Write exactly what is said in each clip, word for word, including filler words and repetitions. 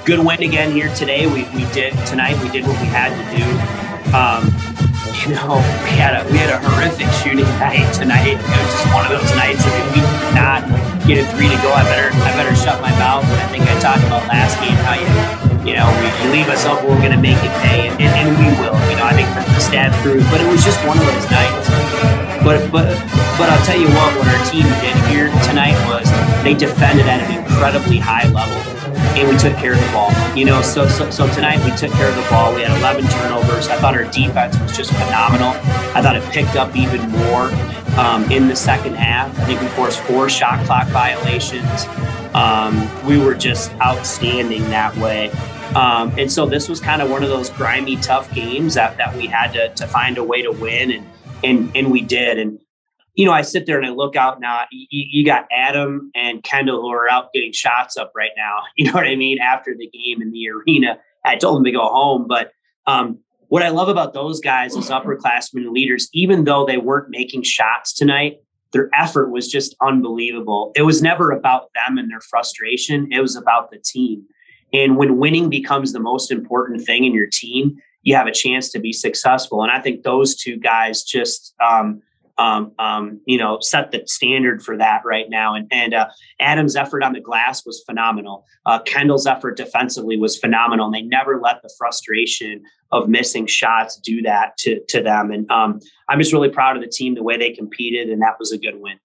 good win again here today. We we did tonight. We did what we had to do. Um, you know, we had a we had a horrific shooting night tonight. It was just one of those nights. I mean, we did not get a three to go. I better I better shut my mouth. But I think I talked about last game how you you know we, you leave us up, we're going to make it pay, and, and, and we will. You know, I think the stat proved. But it was just one of those nights. But but but I'll tell you what, what our team did here tonight was they defended at an incredibly high level, and we took care of the ball. You know, so so so tonight we took care of the ball. We had eleven turnovers. I thought our defense was just phenomenal. I thought it picked up even more um, in the second half. I think we forced four shot clock violations. Um, we were just outstanding that way. Um, and so this was kind of one of those grimy, tough games that that we had to to find a way to win, and and and we did. And you know, I sit there and I look out now. You, you got Adam and Kendall who are out getting shots up right now. You know what I mean? After the game in the arena, I told them to go home. But um, what I love about those guys as upperclassmen leaders, even though they weren't making shots tonight, their effort was just unbelievable. It was never about them and their frustration. It was about the team. And when winning becomes the most important thing in your team, you have a chance to be successful. And I think those two guys just, um, um, um, you know, set the standard for that right now. And, and uh, Adam's effort on the glass was phenomenal. Uh, Kendall's effort defensively was phenomenal. And they never let the frustration of missing shots do that to, to them. And um, I'm just really proud of the team, the way they competed. And that was a good win.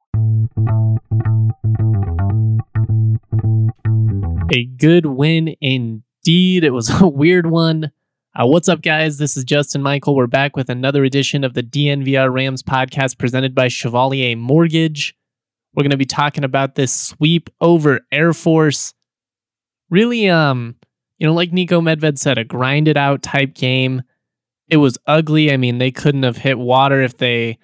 A good win indeed. It was a weird one. Uh, what's up, guys? This is Justin Michael. We're back with another edition of the D N V R Rams podcast presented by Chevalier Mortgage. We're going to be talking about this sweep over Air Force. Really, um, you know, like Niko Medved said, a grinded out type game. It was ugly. I mean, they couldn't have hit water if they...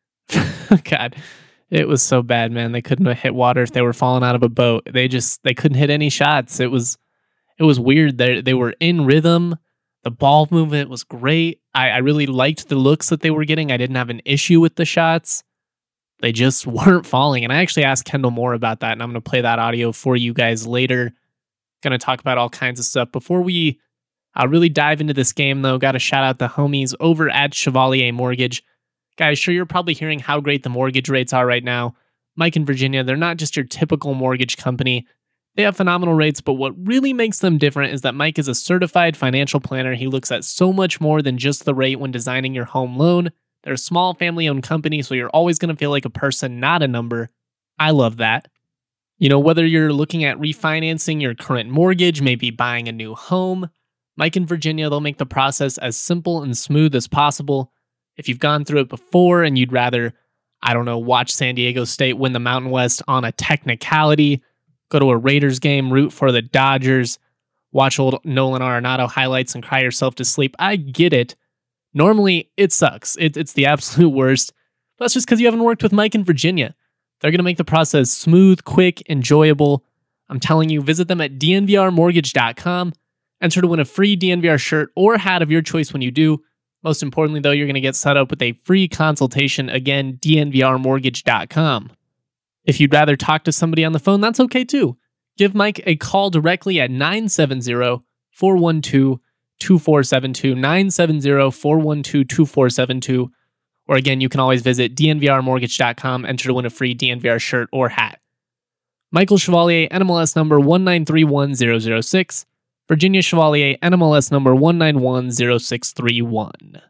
God, it was so bad, man. They couldn't have hit water if they were falling out of a boat. They just, they couldn't hit any shots. It was, it was weird. They they were in rhythm. The ball movement was great. I, I really liked the looks that they were getting. I didn't have an issue with the shots. They just weren't falling. And I actually asked Kendall Moore about that, and I'm going to play that audio for you guys later. Going to talk about all kinds of stuff. Before we uh, really dive into this game, though, got to shout out the homies over at Chevalier Mortgage. Guys, sure, you're probably hearing how great the mortgage rates are right now. Mike and Virginia, they're not just your typical mortgage company. They have phenomenal rates, but what really makes them different is that Mike is a certified financial planner. He looks at so much more than just the rate when designing your home loan. They're a small family-owned company, so you're always going to feel like a person, not a number. I love that. You know, whether you're looking at refinancing your current mortgage, maybe buying a new home, Mike and Virginia, they'll make the process as simple and smooth as possible. If you've gone through it before and you'd rather, I don't know, watch San Diego State win the Mountain West on a technicality, go to a Raiders game, root for the Dodgers, watch old Nolan Arenado highlights and cry yourself to sleep. I get it. Normally, it sucks. It, it's the absolute worst. But that's just because you haven't worked with Mike and Virginia. They're going to make the process smooth, quick, enjoyable. I'm telling you, visit them at D N V R mortgage dot com. Enter to win a free D N V R shirt or hat of your choice when you do. Most importantly, though, you're going to get set up with a free consultation. Again, D N V R mortgage dot com. If you'd rather talk to somebody on the phone, that's okay too. Give Mike a call directly at nine seven zero, four one two, two four seven two, nine seven zero, four one two, two four seven two. Or again, you can always visit D N V R mortgage dot com, enter to win a free D N V R shirt or hat. Michael Chevalier, N M L S number one nine three one zero zero six. Virginia Chevalier, N M L S number one nine one zero six three one.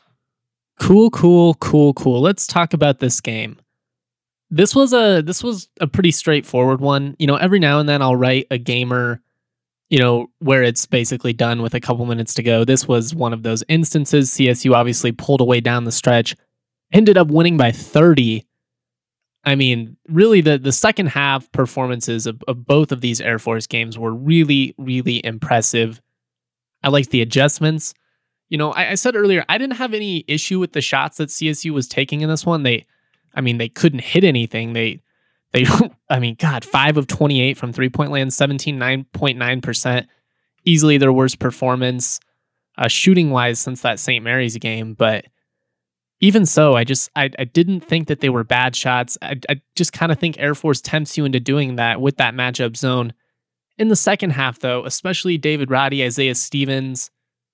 Cool, cool, cool, cool. Let's talk about this game. This was a this was a pretty straightforward one. You know, every now and then I'll write a gamer, you know, where it's basically done with a couple minutes to go. This was one of those instances. C S U obviously pulled away down the stretch, ended up winning by thirty. I mean, really, the, the second half performances of, of both of these Air Force games were really, really impressive. I liked the adjustments. You know, I, I said earlier, I didn't have any issue with the shots that C S U was taking in this one. They, I mean, they couldn't hit anything. They, they, I mean, God, five of twenty-eight from three-point land, seventeen, nine point nine percent. Easily their worst performance, uh, shooting-wise since that Saint Mary's game, but even so, I just I, I didn't think that they were bad shots. I, I just kind of think Air Force tempts you into doing that with that matchup zone. In the second half, though, especially David Roddy, Isaiah Stevens,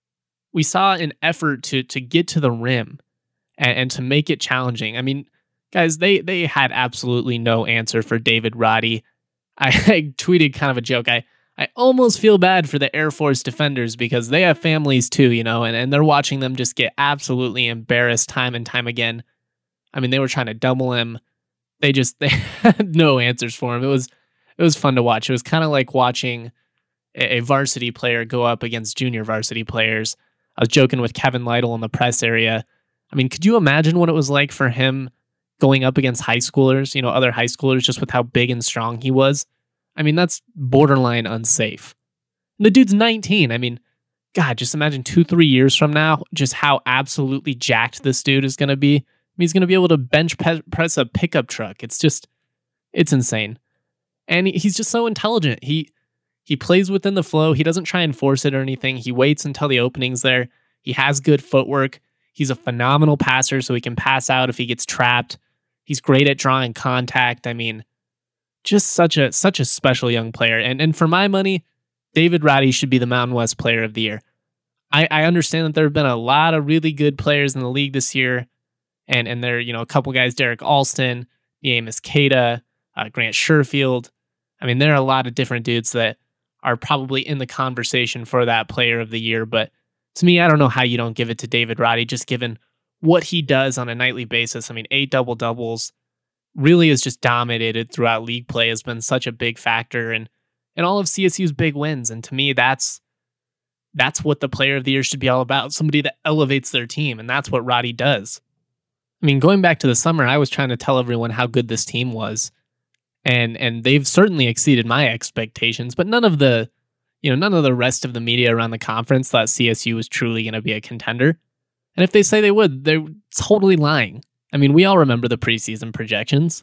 we saw an effort to to get to the rim and, and to make it challenging. I mean, guys, they they had absolutely no answer for David Roddy. I, I tweeted kind of a joke. I, I almost feel bad for the Air Force defenders because they have families too, you know, and, and they're watching them just get absolutely embarrassed time and time again. I mean, they were trying to double him. They just they had no answers for him. It was it was fun to watch. It was kind of like watching a, a varsity player go up against junior varsity players. I was joking with Kevin Lytle in the press area. I mean, could you imagine what it was like for him going up against high schoolers, you know, other high schoolers, just with how big and strong he was? I mean, that's borderline unsafe. And the dude's nineteen. I mean, God, just imagine two, three years from now, just how absolutely jacked this dude is going to be. I mean, he's going to be able to bench pe- press a pickup truck. It's just, it's insane. And he, he's just so intelligent. He he plays within the flow. He doesn't try and force it or anything. He waits until the opening's there. He has good footwork. He's a phenomenal passer, so he can pass out if he gets trapped. He's great at drawing contact. I mean, just such a such a special young player. And and for my money, David Roddy should be the Mountain West Player of the Year. I, I understand that there have been a lot of really good players in the league this year. And and there are, you know, a couple guys, Derek Alston, Amos Cada, uh, Grant Sherfield. I mean, there are a lot of different dudes that are probably in the conversation for that Player of the Year. But to me, I don't know how you don't give it to David Roddy, just given what he does on a nightly basis. I mean, eight double-doubles, really has just dominated throughout league play, has been such a big factor in, in all of C S U's big wins. And to me, that's that's what the Player of the Year should be all about, somebody that elevates their team, and that's what Roddy does. I mean, going back to the summer, I was trying to tell everyone how good this team was, and and they've certainly exceeded my expectations, but none of the, you know, none of the rest of the media around the conference thought C S U was truly going to be a contender. And if they say they would, they're totally lying. I mean, we all remember the preseason projections.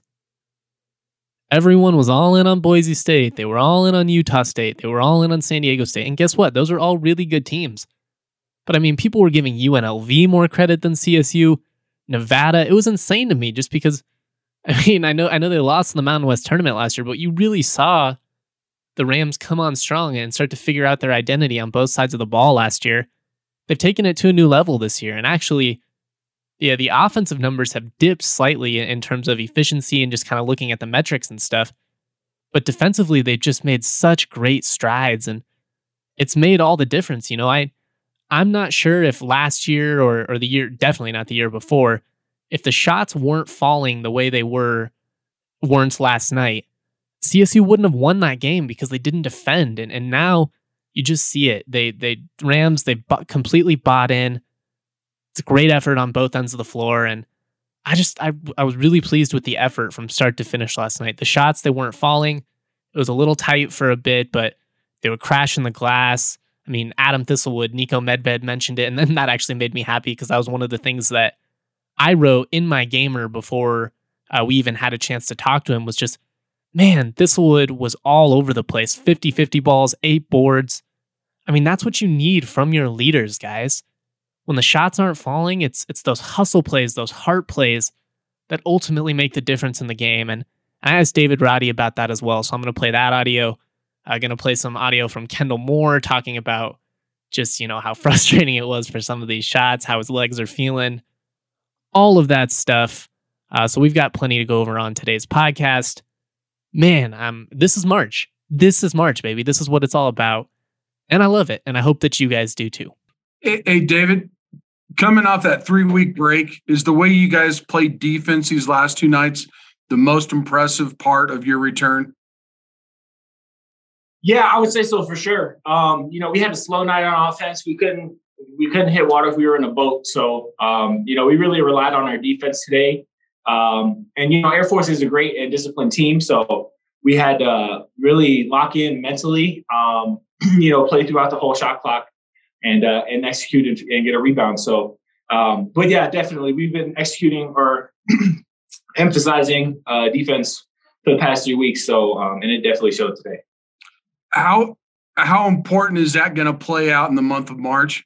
Everyone was all in on Boise State. They were all in on Utah State. They were all in on San Diego State. And guess what? Those are all really good teams. But I mean, people were giving U N L V more credit than C S U. Nevada, it was insane to me just because, I mean, I know I know they lost in the Mountain West tournament last year, but you really saw the Rams come on strong and start to figure out their identity on both sides of the ball last year. They've taken it to a new level this year. And actually, yeah, the offensive numbers have dipped slightly in terms of efficiency and just kind of looking at the metrics and stuff. But defensively, they've just made such great strides, and it's made all the difference. You know, I, I'm not sure if last year or, or the year, definitely not the year before, if the shots weren't falling the way they were, weren't last night, C S U wouldn't have won that game because they didn't defend. And, and now you just see it. They, they Rams, they bu- completely bought in. It's a great effort on both ends of the floor. And I just, I, I was really pleased with the effort from start to finish last night. The shots, they weren't falling. It was a little tight for a bit, but they were crashing the glass. I mean, Adam Thistlewood, Nico Medved mentioned it, and then that actually made me happy because that was one of the things that I wrote in my gamer before uh, we even had a chance to talk to him, was just, man, Thistlewood was all over the place. fifty-fifty balls, eight boards. I mean, that's what you need from your leaders, guys. When the shots aren't falling, it's it's those hustle plays, those heart plays that ultimately make the difference in the game. And I asked David Roddy about that as well, so I'm going to play that audio. I'm going to play some audio from Kendall Moore talking about just, you know, how frustrating it was for some of these shots, how his legs are feeling, all of that stuff. Uh, so we've got plenty to go over on today's podcast. Man, um, this is March. This is March, baby. This is what it's all about. And I love it. And I hope that you guys do too. Hey, hey David, coming off that three-week break, is the way you guys played defense these last two nights the most impressive part of your return? Yeah, I would say so for sure. Um, you know, we had a slow night on offense. We couldn't we couldn't hit water if we were in a boat. So, um, you know, we really relied on our defense today. Um, and, you know, Air Force is a great and disciplined team. So we had to uh, really lock in mentally, um, you know, play throughout the whole shot clock and uh, and execute and, and get a rebound. So, um, but, yeah, definitely we've been executing or emphasizing uh, defense for the past three weeks. So, um, and it definitely showed today. How how important is that going to play out in the month of March?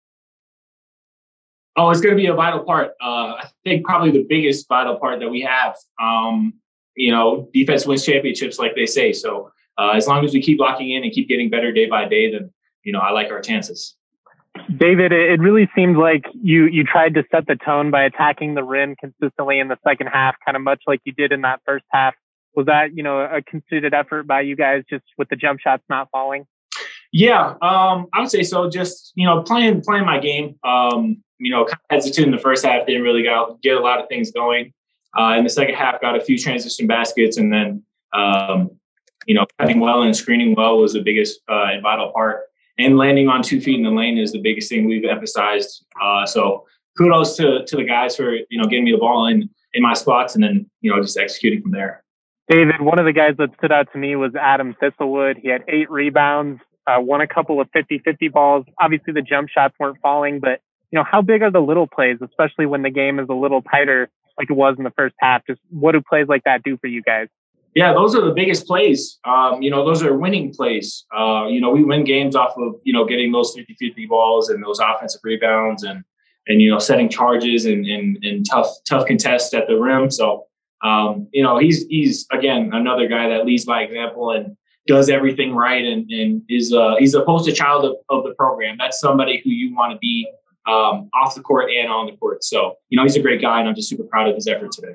Oh, it's going to be a vital part. Uh, I think probably the biggest vital part that we have. Um, you know, defense wins championships, like they say. So uh, as long as we keep locking in and keep getting better day by day, then, you know, I like our chances. David, it really seemed like you, you tried to set the tone by attacking the rim consistently in the second half, kind of much like you did in that first half. Was that, you know, a concerted effort by you guys just with the jump shots not falling? Yeah, um, I would say so. Just, you know, playing playing my game. Um, you know, kind of hesitant in the first half, didn't really got, get a lot of things going. Uh, in the second half, got a few transition baskets, and then, um, you know, cutting well and screening well was the biggest uh, and vital part. And landing on two feet in the lane is the biggest thing we've emphasized. Uh, so kudos to to the guys for, you know, getting me the ball in, in my spots and then, you know, just executing from there. David, one of the guys that stood out to me was Adam Thistlewood. He had eight rebounds, uh, won a couple of fifty-fifty balls. Obviously, the jump shots weren't falling, but, you know, how big are the little plays, especially when the game is a little tighter like it was in the first half? Just what do plays like that do for you guys? Yeah, those are the biggest plays. Um, you know, those are winning plays. Uh, you know, we win games off of, you know, getting those fifty-fifty balls and those offensive rebounds and, and you know, setting charges and, and, and tough tough contests at the rim. So, um, you know, he's, he's again, another guy that leads by example and does everything right and, and is uh, he's a poster child of, of the program. That's somebody who you want to be um, off the court and on the court. So, you know, he's a great guy, and I'm just super proud of his effort today.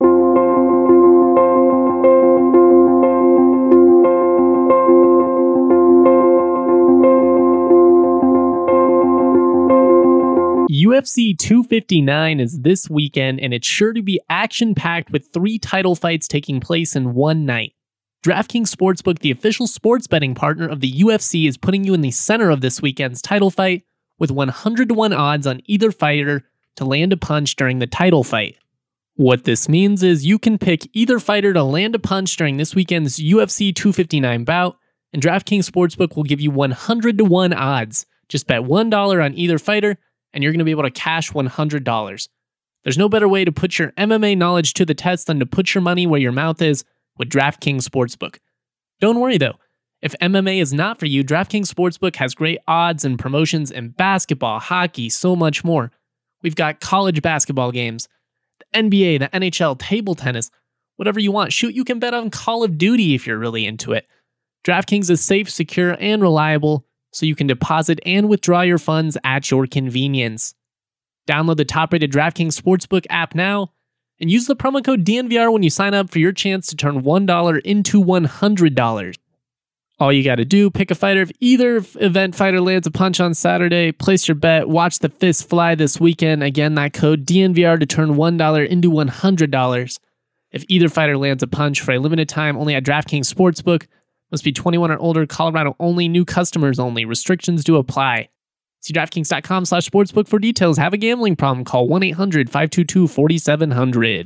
U F C two fifty-nine is this weekend, and it's sure to be action-packed with three title fights taking place in one night. DraftKings Sportsbook, the official sports betting partner of the U F C, is putting you in the center of this weekend's title fight with one hundred to one odds on either fighter to land a punch during the title fight. What this means is you can pick either fighter to land a punch during this weekend's U F C two fifty-nine bout, and DraftKings Sportsbook will give you one hundred to one odds. Just bet one dollar on either fighter, and you're going to be able to cash one hundred dollars. There's no better way to put your M M A knowledge to the test than to put your money where your mouth is with DraftKings Sportsbook. Don't worry though, if M M A is not for you, DraftKings Sportsbook has great odds and promotions in basketball, hockey, so much more. We've got college basketball games, the N B A, the N H L, table tennis, whatever you want. Shoot, you can bet on Call of Duty if you're really into it. DraftKings is safe, secure, and reliable, so you can deposit and withdraw your funds at your convenience. Download the top-rated DraftKings Sportsbook app now and use the promo code D N V R when you sign up for your chance to turn one dollar into one hundred dollars. All you got to do, pick a fighter. If either event fighter lands a punch on Saturday, place your bet, watch the fist fly this weekend. Again, that code D N V R to turn one dollar into one hundred dollars. If either fighter lands a punch for a limited time only at DraftKings Sportsbook, must be twenty-one or older, Colorado only, new customers only. Restrictions do apply. See DraftKings.com slash sportsbook for details. Have a gambling problem? Call one eight hundred five two two four seven zero zero.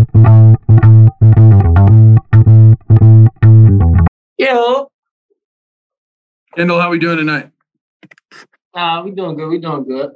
Yo. Kendall, how we doing tonight? Uh, we doing good. We doing good.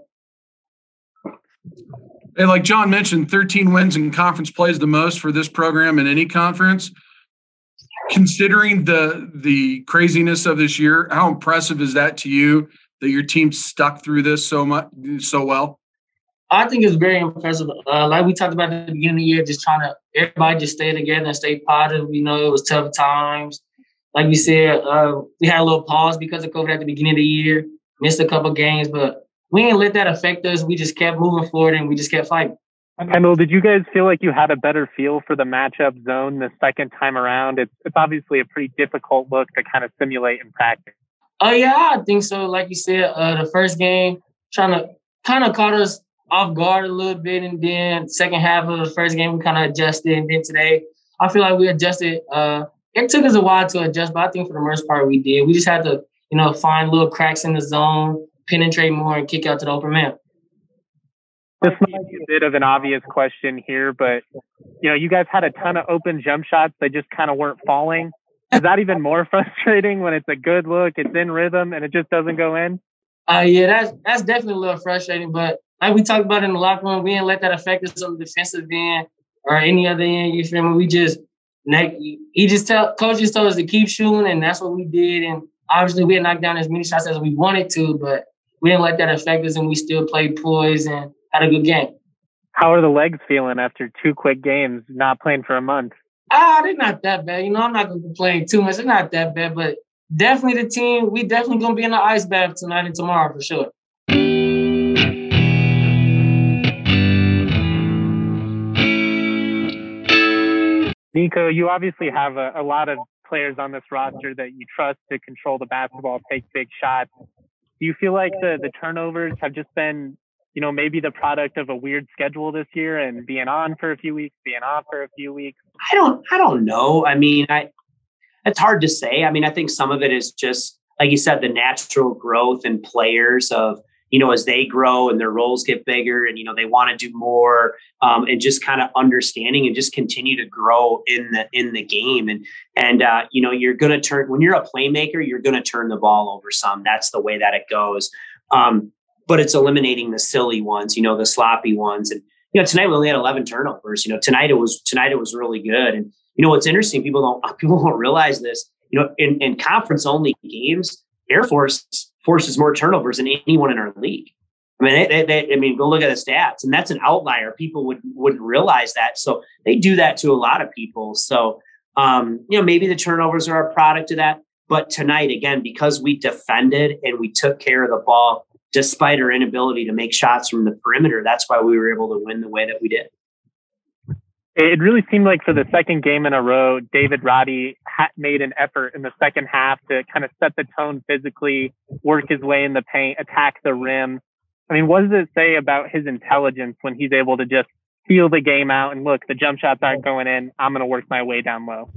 Hey, like John mentioned, thirteen wins in conference play is the most for this program in any conference. Considering the the craziness of this year, how impressive is that to you that your team stuck through this so much so well? I think it's very impressive. Uh, like we talked about at the beginning of the year, just trying to everybody just stay together and stay positive. You know, it was tough times. Like we said, uh, we had a little pause because of COVID at the beginning of the year, missed a couple games, but we didn't let that affect us. We just kept moving forward and we just kept fighting. Kendall, did you guys feel like you had a better feel for the matchup zone the second time around? It's it's obviously a pretty difficult look to kind of simulate in practice. Oh, yeah, I think so. Like you said, uh, the first game trying to kind of caught us off guard a little bit. And then second half of the first game, we kind of adjusted. And then today, I feel like we adjusted. Uh, it took us a while to adjust, but I think for the most part we did. We just had to, you know, find little cracks in the zone, penetrate more, and kick out to the open man. This might be a bit of an obvious question here, but, you know, you guys had a ton of open jump shots. They just kind of weren't falling. Is that even more frustrating when it's a good look, it's in rhythm, and it just doesn't go in? Uh, yeah, that's that's definitely a little frustrating. But like we talked about in the locker room, we didn't let that affect us on the defensive end or any other end. You feel me? We just, he just tell, coach just told us to keep shooting, and that's what we did. And obviously we had knocked down as many shots as we wanted to, but we didn't let that affect us, and we still played poised and had a good game. How are the legs feeling after two quick games, not playing for a month? Ah, they're not that bad. You know, I'm not going to complain too much. They're not that bad, but definitely the team, we definitely going to be in the ice bath tonight and tomorrow for sure. Nico, you obviously have a, a lot of players on this roster that you trust to control the basketball, take big shots. Do you feel like the, the turnovers have just been, you know, maybe the product of a weird schedule this year and being on for a few weeks, being off for a few weeks? I don't, I don't know. I mean, I, it's hard to say. I mean, I think some of it is just, like you said, the natural growth in players of, you know, as they grow and their roles get bigger and, you know, they want to do more um, and just kind of understanding and just continue to grow in the, in the game. And, and, uh, you know, you're going to turn, when you're a playmaker, you're going to turn the ball over some. That's the way that it goes. Um, but it's eliminating the silly ones, you know, the sloppy ones. And, you know, tonight we only had eleven turnovers. You know, tonight it was, tonight it was really good. And, you know, what's interesting, people don't, people don't realize this, you know, in, in conference only games, Air Force forces more turnovers than anyone in our league. I mean, they, they, I mean, go look at the stats, and that's an outlier. People would wouldn't realize that. So they do that to a lot of people. So, um, you know, maybe the turnovers are a product of that. But tonight, again, because we defended and we took care of the ball, despite our inability to make shots from the perimeter, that's why we were able to win the way that we did. It really seemed like for the second game in a row, David Roddy ha- made an effort in the second half to kind of set the tone physically, work his way in the paint, attack the rim. I mean, what does it say about his intelligence when he's able to just feel the game out and look, the jump shots aren't going in, I'm going to work my way down low?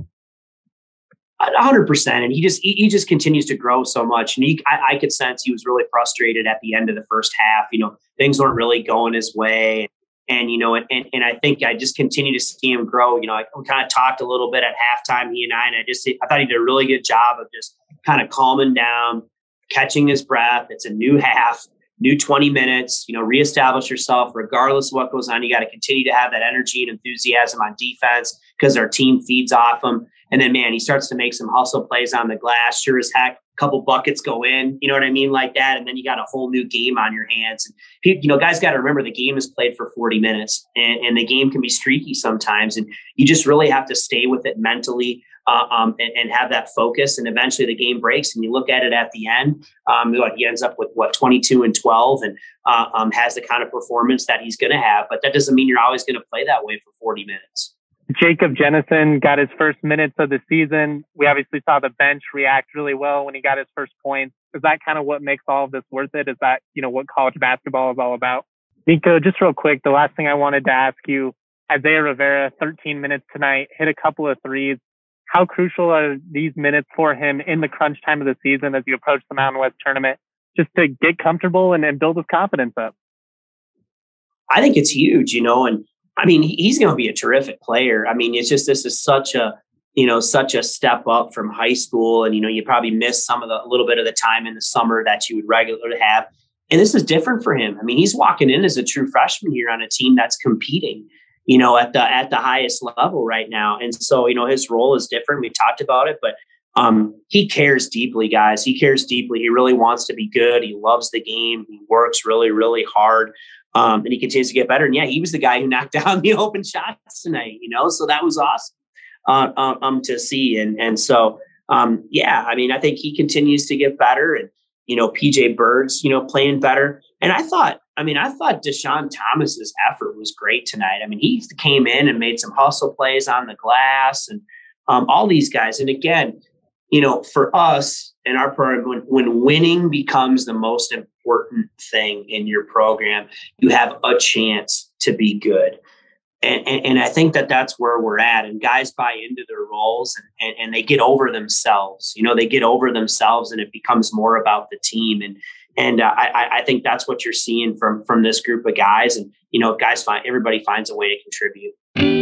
A hundred percent. And he just, he, he just continues to grow so much. And he, I, I could sense he was really frustrated at the end of the first half. You know, things weren't really going his way. And, you know, and, and I think I just continue to see him grow. You know, I we kind of talked a little bit at halftime, he and I, and I just, I thought he did a really good job of just kind of calming down, catching his breath. It's a new half, new twenty minutes, you know, reestablish yourself regardless of what goes on. You got to continue to have that energy and enthusiasm on defense because our team feeds off him. And then, man, he starts to make some hustle plays on the glass. Sure as heck, a couple buckets go in, you know what I mean, like that. And then you got a whole new game on your hands. And, you know, guys got to remember the game is played for forty minutes and, and the game can be streaky sometimes. And you just really have to stay with it mentally uh, um, and, and have that focus. And eventually the game breaks and you look at it at the end. Um, he ends up with, what, twenty-two and twelve and uh, um, has the kind of performance that he's going to have. But that doesn't mean you're always going to play that way for forty minutes. Jacob Jennison got his first minutes of the season. We obviously saw the bench react really well when he got his first points. Is that kind of what makes all of this worth it? Is that, you know, what college basketball is all about? Nico, just real quick, the last thing I wanted to ask you, Isaiah Rivera, thirteen minutes tonight, hit a couple of threes. How crucial are these minutes for him in the crunch time of the season as you approach the Mountain West tournament, just to get comfortable and, and build his confidence up? I think it's huge, you know, and I mean, he's going to be a terrific player. I mean, it's just, this is such a, you know, such a step up from high school. And, you know, you probably miss some of the, a little bit of the time in the summer that you would regularly have. And this is different for him. I mean, he's walking in as a true freshman here on a team that's competing, you know, at the, at the highest level right now. And so, you know, his role is different. We talked about it, but um, he cares deeply, guys. He cares deeply. He really wants to be good. He loves the game. He works really, really hard. Um, and he continues to get better. And yeah, he was the guy who knocked down the open shots tonight, you know, so that was awesome uh, um, um, to see. And, and so, um, yeah, I mean, I think he continues to get better and, you know, P J Bird's, you know, playing better. And I thought, I mean, I thought Deshaun Thomas's effort was great tonight. I mean, he came in and made some hustle plays on the glass and um, all these guys. And again, you know, for us in our program, when, when winning becomes the most important thing in your program, you have a chance to be good. And, and, and I think that that's where we're at. And guys buy into their roles and, and, and they get over themselves. You know, they get over themselves and it becomes more about the team. And and uh, I, I think that's what you're seeing from from this group of guys. And, you know, guys find everybody finds a way to contribute.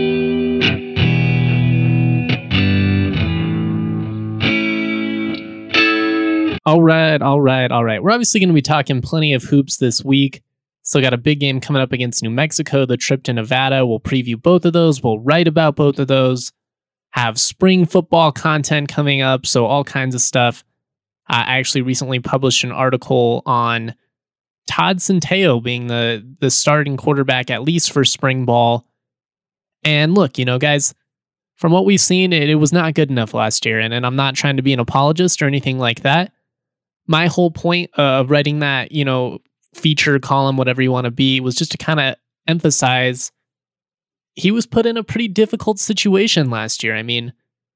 All right, all right, all right. We're obviously going to be talking plenty of hoops this week. Still got a big game coming up against New Mexico, the trip to Nevada. We'll preview both of those. We'll write about both of those. Have spring football content coming up, so all kinds of stuff. I actually recently published an article on Todd Centeio being the, the starting quarterback, at least for spring ball. And look, you know, guys, from what we've seen, it, it was not good enough last year. And, and I'm not trying to be an apologist or anything like that. My whole point of writing that, you know, feature column, whatever you want to be, was just to kind of emphasize he was put in a pretty difficult situation last year. I mean,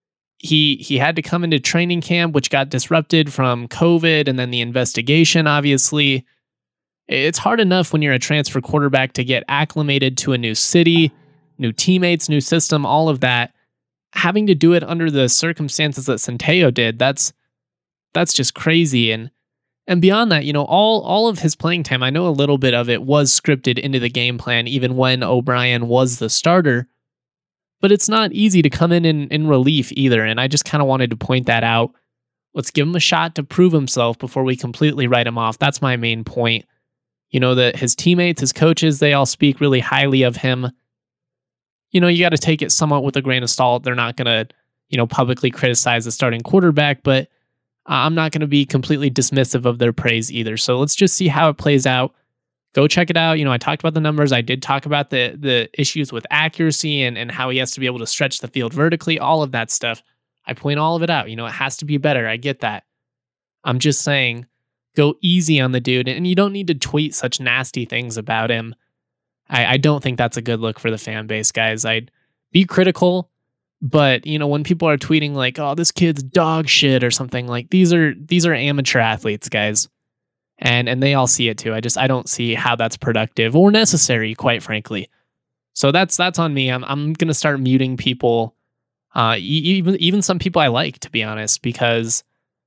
he he had to come into training camp, which got disrupted from COVID and then the investigation, obviously. It's hard enough when you're a transfer quarterback to get acclimated to a new city, new teammates, new system, all of that. Having to do it under the circumstances that Centeio did, that's that's just crazy. And and beyond that, you know, all all of his playing time, I know a little bit of it was scripted into the game plan, even when O'Brien was the starter. But it's not easy to come in in, in relief either. And I just kind of wanted to point that out. Let's give him a shot to prove himself before we completely write him off. That's my main point. You know, that his teammates, his coaches, they all speak really highly of him. You know, you got to take it somewhat with a grain of salt. They're not going to, you know, publicly criticize the starting quarterback, but I'm not going to be completely dismissive of their praise either. So let's just see how it plays out. Go check it out. You know, I talked about the numbers. I did talk about the the issues with accuracy and, and how he has to be able to stretch the field vertically, all of that stuff. I point all of it out. You know, it has to be better. I get that. I'm just saying, go easy on the dude, and you don't need to tweet such nasty things about him. I, I don't think that's a good look for the fan base, guys. I'd be critical, but you know, when people are tweeting like, "Oh, this kid's dog shit" or something, like these are these are amateur athletes, guys. And and they all see it too. I just I don't see how that's productive or necessary, quite frankly. So that's that's on me. I'm I'm gonna start muting people, uh, even even some people I like, to be honest, because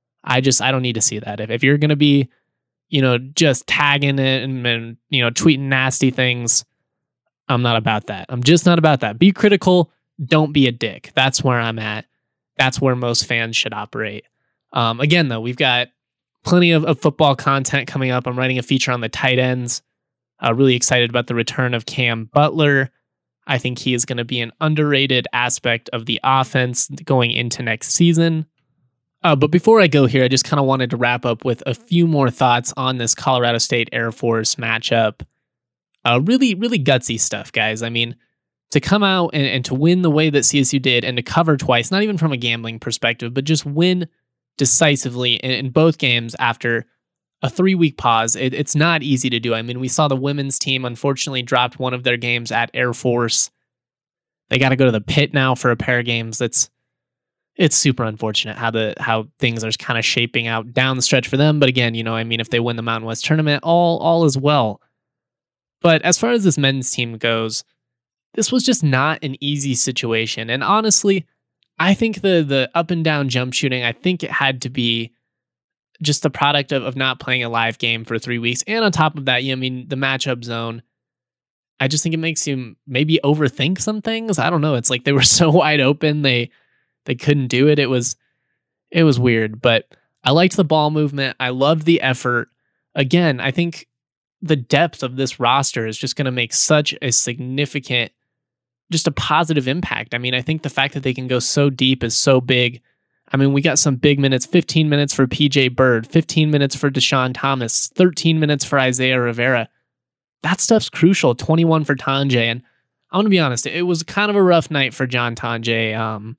I just I don't need to see that. If if you're gonna be, you know, just tagging it and, and you know tweeting nasty things, I'm not about that. I'm just not about that. Be critical. Don't be a dick. That's where I'm at. That's where most fans should operate. Um, again, though, we've got plenty of, of football content coming up. I'm writing a feature on the tight ends. Uh, really excited about the return of Cam Butler. I think he is going to be an underrated aspect of the offense going into next season. Uh, but before I go here, I just kind of wanted to wrap up with a few more thoughts on this Colorado State Air Force matchup. Uh, really, really gutsy stuff, guys. I mean, to come out and, and to win the way that C S U did and to cover twice, not even from a gambling perspective, but just win decisively in, in both games after a three-week pause. It, it's not easy to do. I mean, we saw the women's team unfortunately dropped one of their games at Air Force. They got to go to the pit now for a pair of games. That's it's super unfortunate how the how things are kind of shaping out down the stretch for them. But again, you know, I mean, if they win the Mountain West tournament, all all is well. But as far as this men's team goes, this was just not an easy situation. And honestly, I think the the up and down jump shooting, I think it had to be just the product of, of not playing a live game for three weeks. And on top of that, you know, I mean, the matchup zone, I just think it makes you maybe overthink some things. I don't know. It's like they were so wide open, they they couldn't do it. It was it was weird, but I liked the ball movement. I loved the effort. Again, I think the depth of this roster is just going to make such a significant, just a positive impact. I mean, I think the fact that they can go so deep is so big. I mean, we got some big minutes, fifteen minutes for P J Bird, fifteen minutes for Deshaun Thomas, thirteen minutes for Isaiah Rivera. That stuff's crucial. twenty-one for Tonje. And I'm going to be honest, it was kind of a rough night for John Tonje. Um,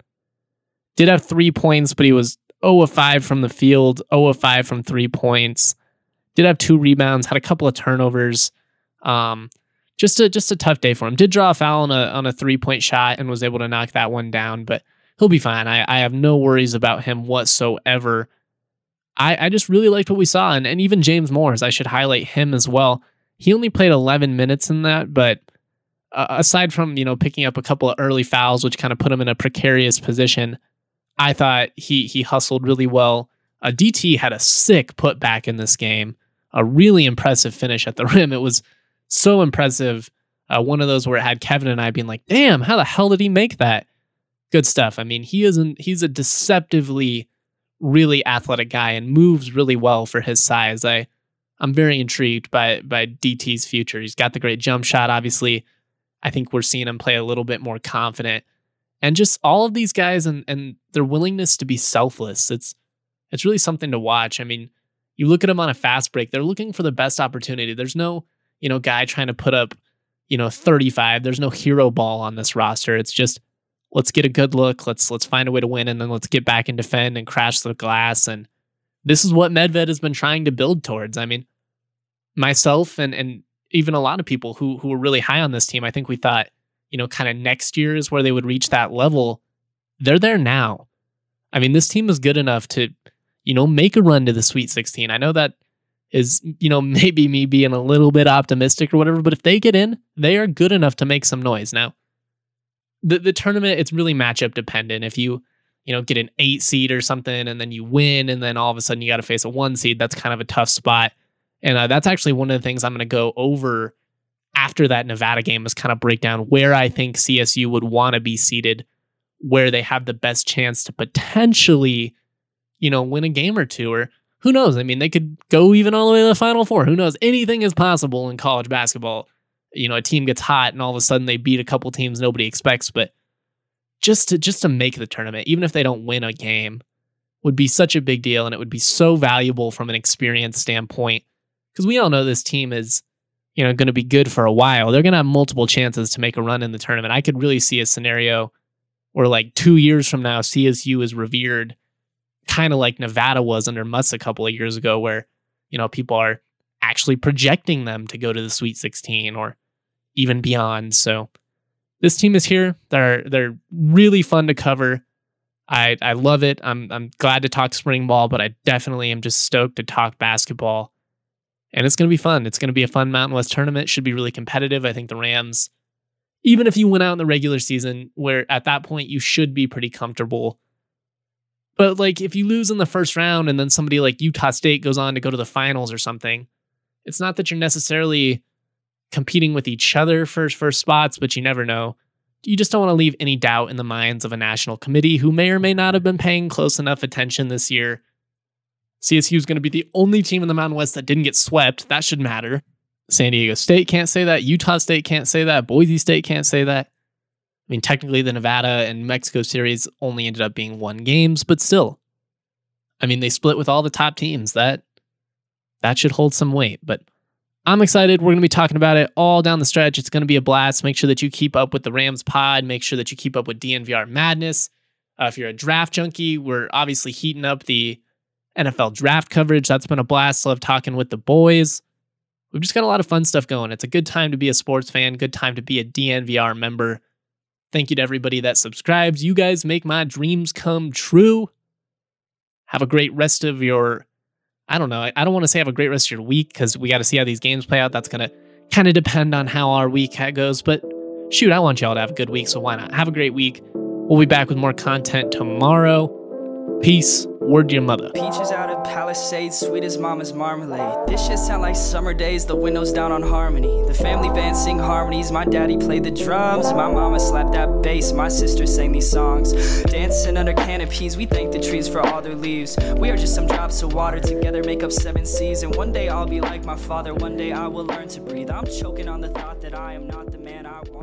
did have three points, but he was zero of five from the field, zero of five from three points. Did have two rebounds, had a couple of turnovers. Um, just a just a tough day for him. Did draw a foul on a on a three point shot and was able to knock that one down, but he'll be fine. I, I have no worries about him whatsoever. I, I just really liked what we saw, and, and even James Morris, I should highlight him as well. He only played eleven minutes in that, but uh, aside from, you know, picking up a couple of early fouls, which kind of put him in a precarious position, I thought he he hustled really well. Uh, D T had a sick putback in this game, a really impressive finish at the rim. It was so impressive. Uh, one of those where it had Kevin and I being like, damn, how the hell did he make that? Good stuff. I mean, he isn't, he's a deceptively really athletic guy and moves really well for his size. I, I'm very intrigued by, by D T's future. He's got the great jump shot. Obviously, I think we're seeing him play a little bit more confident, and just all of these guys and, and their willingness to be selfless. It's, it's really something to watch. I mean, you look at them on a fast break, they're looking for the best opportunity. There's no, you know, guy trying to put up, you know, thirty-five. There's no hero ball on this roster. It's just, let's get a good look. Let's let's find a way to win, and then let's get back and defend and crash the glass. And this is what Medved has been trying to build towards. I mean, myself and and even a lot of people who who were really high on this team, I think we thought, you know, kind of next year is where they would reach that level. They're there now. I mean, this team is good enough to, you know, make a run to the Sweet sixteen. I know that is, you know, maybe me being a little bit optimistic or whatever, but if they get in, they are good enough to make some noise. Now, the the tournament, it's really matchup dependent. If you, you know, get an eight seed or something and then you win and then all of a sudden you got to face a one seed, that's kind of a tough spot. And uh, that's actually one of the things I'm going to go over after that Nevada game, is kind of break down where I think C S U would want to be seated, where they have the best chance to potentially, you know, win a game or two, or who knows? I mean, they could go even all the way to the Final Four. Who knows? Anything is possible in college basketball. You know, a team gets hot and all of a sudden they beat a couple teams nobody expects, but just to just to make the tournament, even if they don't win a game, would be such a big deal, and it would be so valuable from an experience standpoint, because we all know this team is, you know, going to be good for a while. They're going to have multiple chances to make a run in the tournament. I could really see a scenario where, like, two years from now, C S U is revered, kind of like Nevada was under Muss a couple of years ago, where, you know, people are actually projecting them to go to the Sweet sixteen or even beyond. So this team is here. They're they're really fun to cover. I I love it. I'm I'm glad to talk spring ball, but I definitely am just stoked to talk basketball. And it's going to be fun. It's going to be a fun Mountain West tournament. Should be really competitive. I think the Rams, even if you went out in the regular season, where at that point you should be pretty comfortable. But like if you lose in the first round and then somebody like Utah State goes on to go to the finals or something, it's not that you're necessarily competing with each other for first spots, but you never know. You just don't want to leave any doubt in the minds of a national committee who may or may not have been paying close enough attention this year. C S U is going to be the only team in the Mountain West that didn't get swept. That should matter. San Diego State can't say that. Utah State can't say that. Boise State can't say that. I mean, technically the Nevada and Mexico series only ended up being one games, but still. I mean, they split with all the top teams. That that should hold some weight, but I'm excited. We're going to be talking about it all down the stretch. It's going to be a blast. Make sure that you keep up with the Rams pod. Make sure that you keep up with D N V R Madness. Uh, if you're a draft junkie, we're obviously heating up the N F L draft coverage. That's been a blast. Love talking with the boys. We've just got a lot of fun stuff going. It's a good time to be a sports fan. Good time to be a D N V R member. Thank you to everybody that subscribes. You guys make my dreams come true. Have a great rest of your, I don't know, I don't want to say have a great rest of your week, because we got to see how these games play out. That's going to kind of depend on how our week goes. But shoot, I want y'all to have a good week, so why not? Have a great week. We'll be back with more content tomorrow. Peace. Word to your mother. Peaches out of Palisades, sweet as mama's marmalade. This shit sound like summer days, the windows down on Harmony. The family band sing harmonies, my daddy played the drums. My mama slapped that bass, my sister sang these songs. Dancing under canopies, we thank the trees for all their leaves. We are just some drops of water, together make up seven seas. And one day I'll be like my father, one day I will learn to breathe. I'm choking on the thought that I am not the man I want.